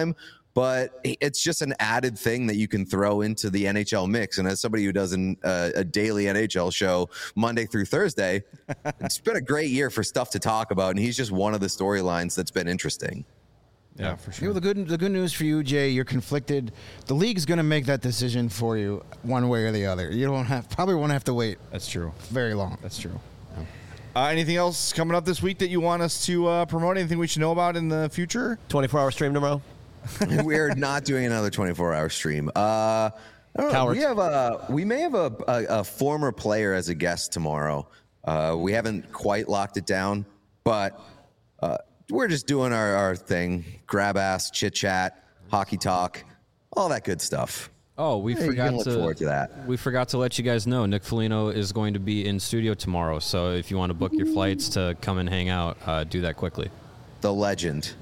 but it's just an added thing that you can throw into the NHL mix. And as somebody who does a daily NHL show Monday through Thursday, it's been a great year for stuff to talk about. And he's just one of the storylines that's been interesting. Yeah, for sure. You know, the good news for you, Jay, you're conflicted. The league's going to make that decision for you one way or the other. You probably won't have to wait That's true. very long. That's true. Anything else coming up this week that you want us to promote? Anything we should know about in the future? 24-hour stream tomorrow. We're not doing another 24-hour stream. Cowards. We may have a former player as a guest tomorrow. We haven't quite locked it down, but we're just doing our thing. Grab ass, chit chat, hockey talk, all that good stuff. Oh, we You can forgot look forward to that. We forgot to let you guys know Nick Foligno is going to be in studio tomorrow. So if you want to book your flights to come and hang out, do that quickly. The legend.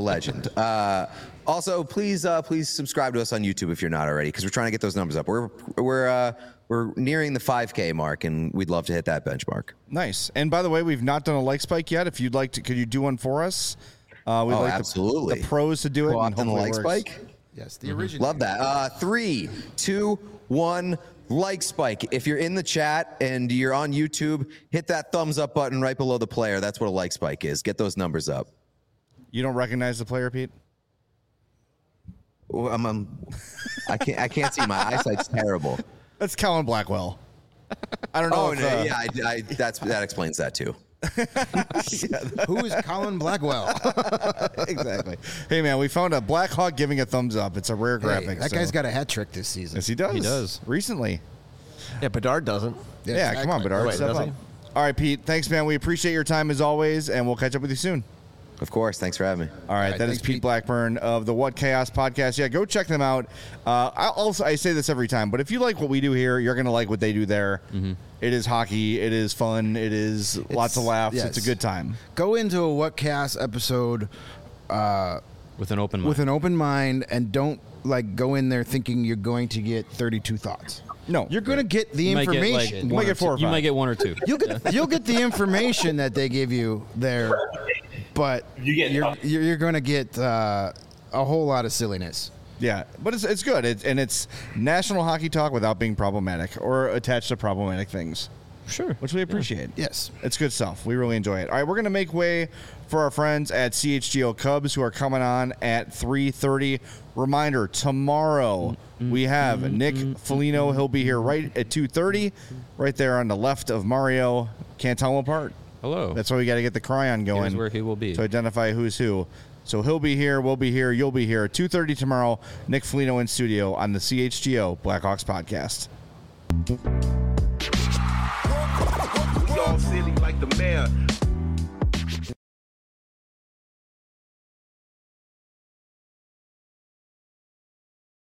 Also, please subscribe to us on YouTube if you're not already, because we're trying to get those numbers up. We're nearing the 5K mark, and we'd love to hit that benchmark. Nice. And by the way, we've not done a like spike yet. If you'd like to, could you do one for us? We'd like absolutely. The pros to do it. Go and off on the hopefully like it works. spike. Yes, the original. Love that. 3, 2, 1. Like spike. If you're in the chat and you're on YouTube, hit that thumbs up button right below the player. That's what a like spike is. Get those numbers up. You don't recognize the player, Pete? Well, I can't see. My eyesight's terrible. That's Colin Blackwell. I don't know. Oh if, no, yeah, that explains that too. Who is Colin Blackwell? Exactly. Hey man, we found a Black Hawk giving a thumbs up. It's a rare graphic. That guy's got a hat trick this season. Yes, he does. He does. Recently. Yeah, Bedard doesn't. Yeah, come on, Bedard. Wait, Step does up. he? All right, Pete. Thanks, man. We appreciate your time as always, and we'll catch up with you soon. Of course. Thanks for having me. All right, that is thanks, Pete Pete. Blackburn of the What Chaos podcast. Yeah, go check them out. I say this every time, but if you like what we do here, you're going to like what they do there. Mm-hmm. It is hockey. It is fun. It is lots of laughs. yes. It's a good time. Go into a What Cast episode With an open mind. with an open mind and don't go in there thinking you're going to get 32 thoughts. No. You're going to get the You might get, like, information. You might get 4 or 5. You might get 1 or 2. You'll get the information that they give you there, but you're going to get a whole lot of silliness. Yeah, but it's good. It's national hockey talk without being problematic or attached to problematic things. Sure. Which we appreciate. Yes. It's good stuff. We really enjoy it. All right, we're going to make way for our friends at CHGO Cubs who are coming on at 3:30. Reminder, tomorrow we have Nick Foligno. He'll be here right at 2:30, right there on the left of Mario. Can't tell them apart. Hello. That's why we got to get the cryon going. Here's where he will be. To identify who's who. So he'll be here, we'll be here, you'll be here. 2:30 tomorrow, Nick Foligno in studio on the CHGO Blackhawks podcast. We all silly like the mayor.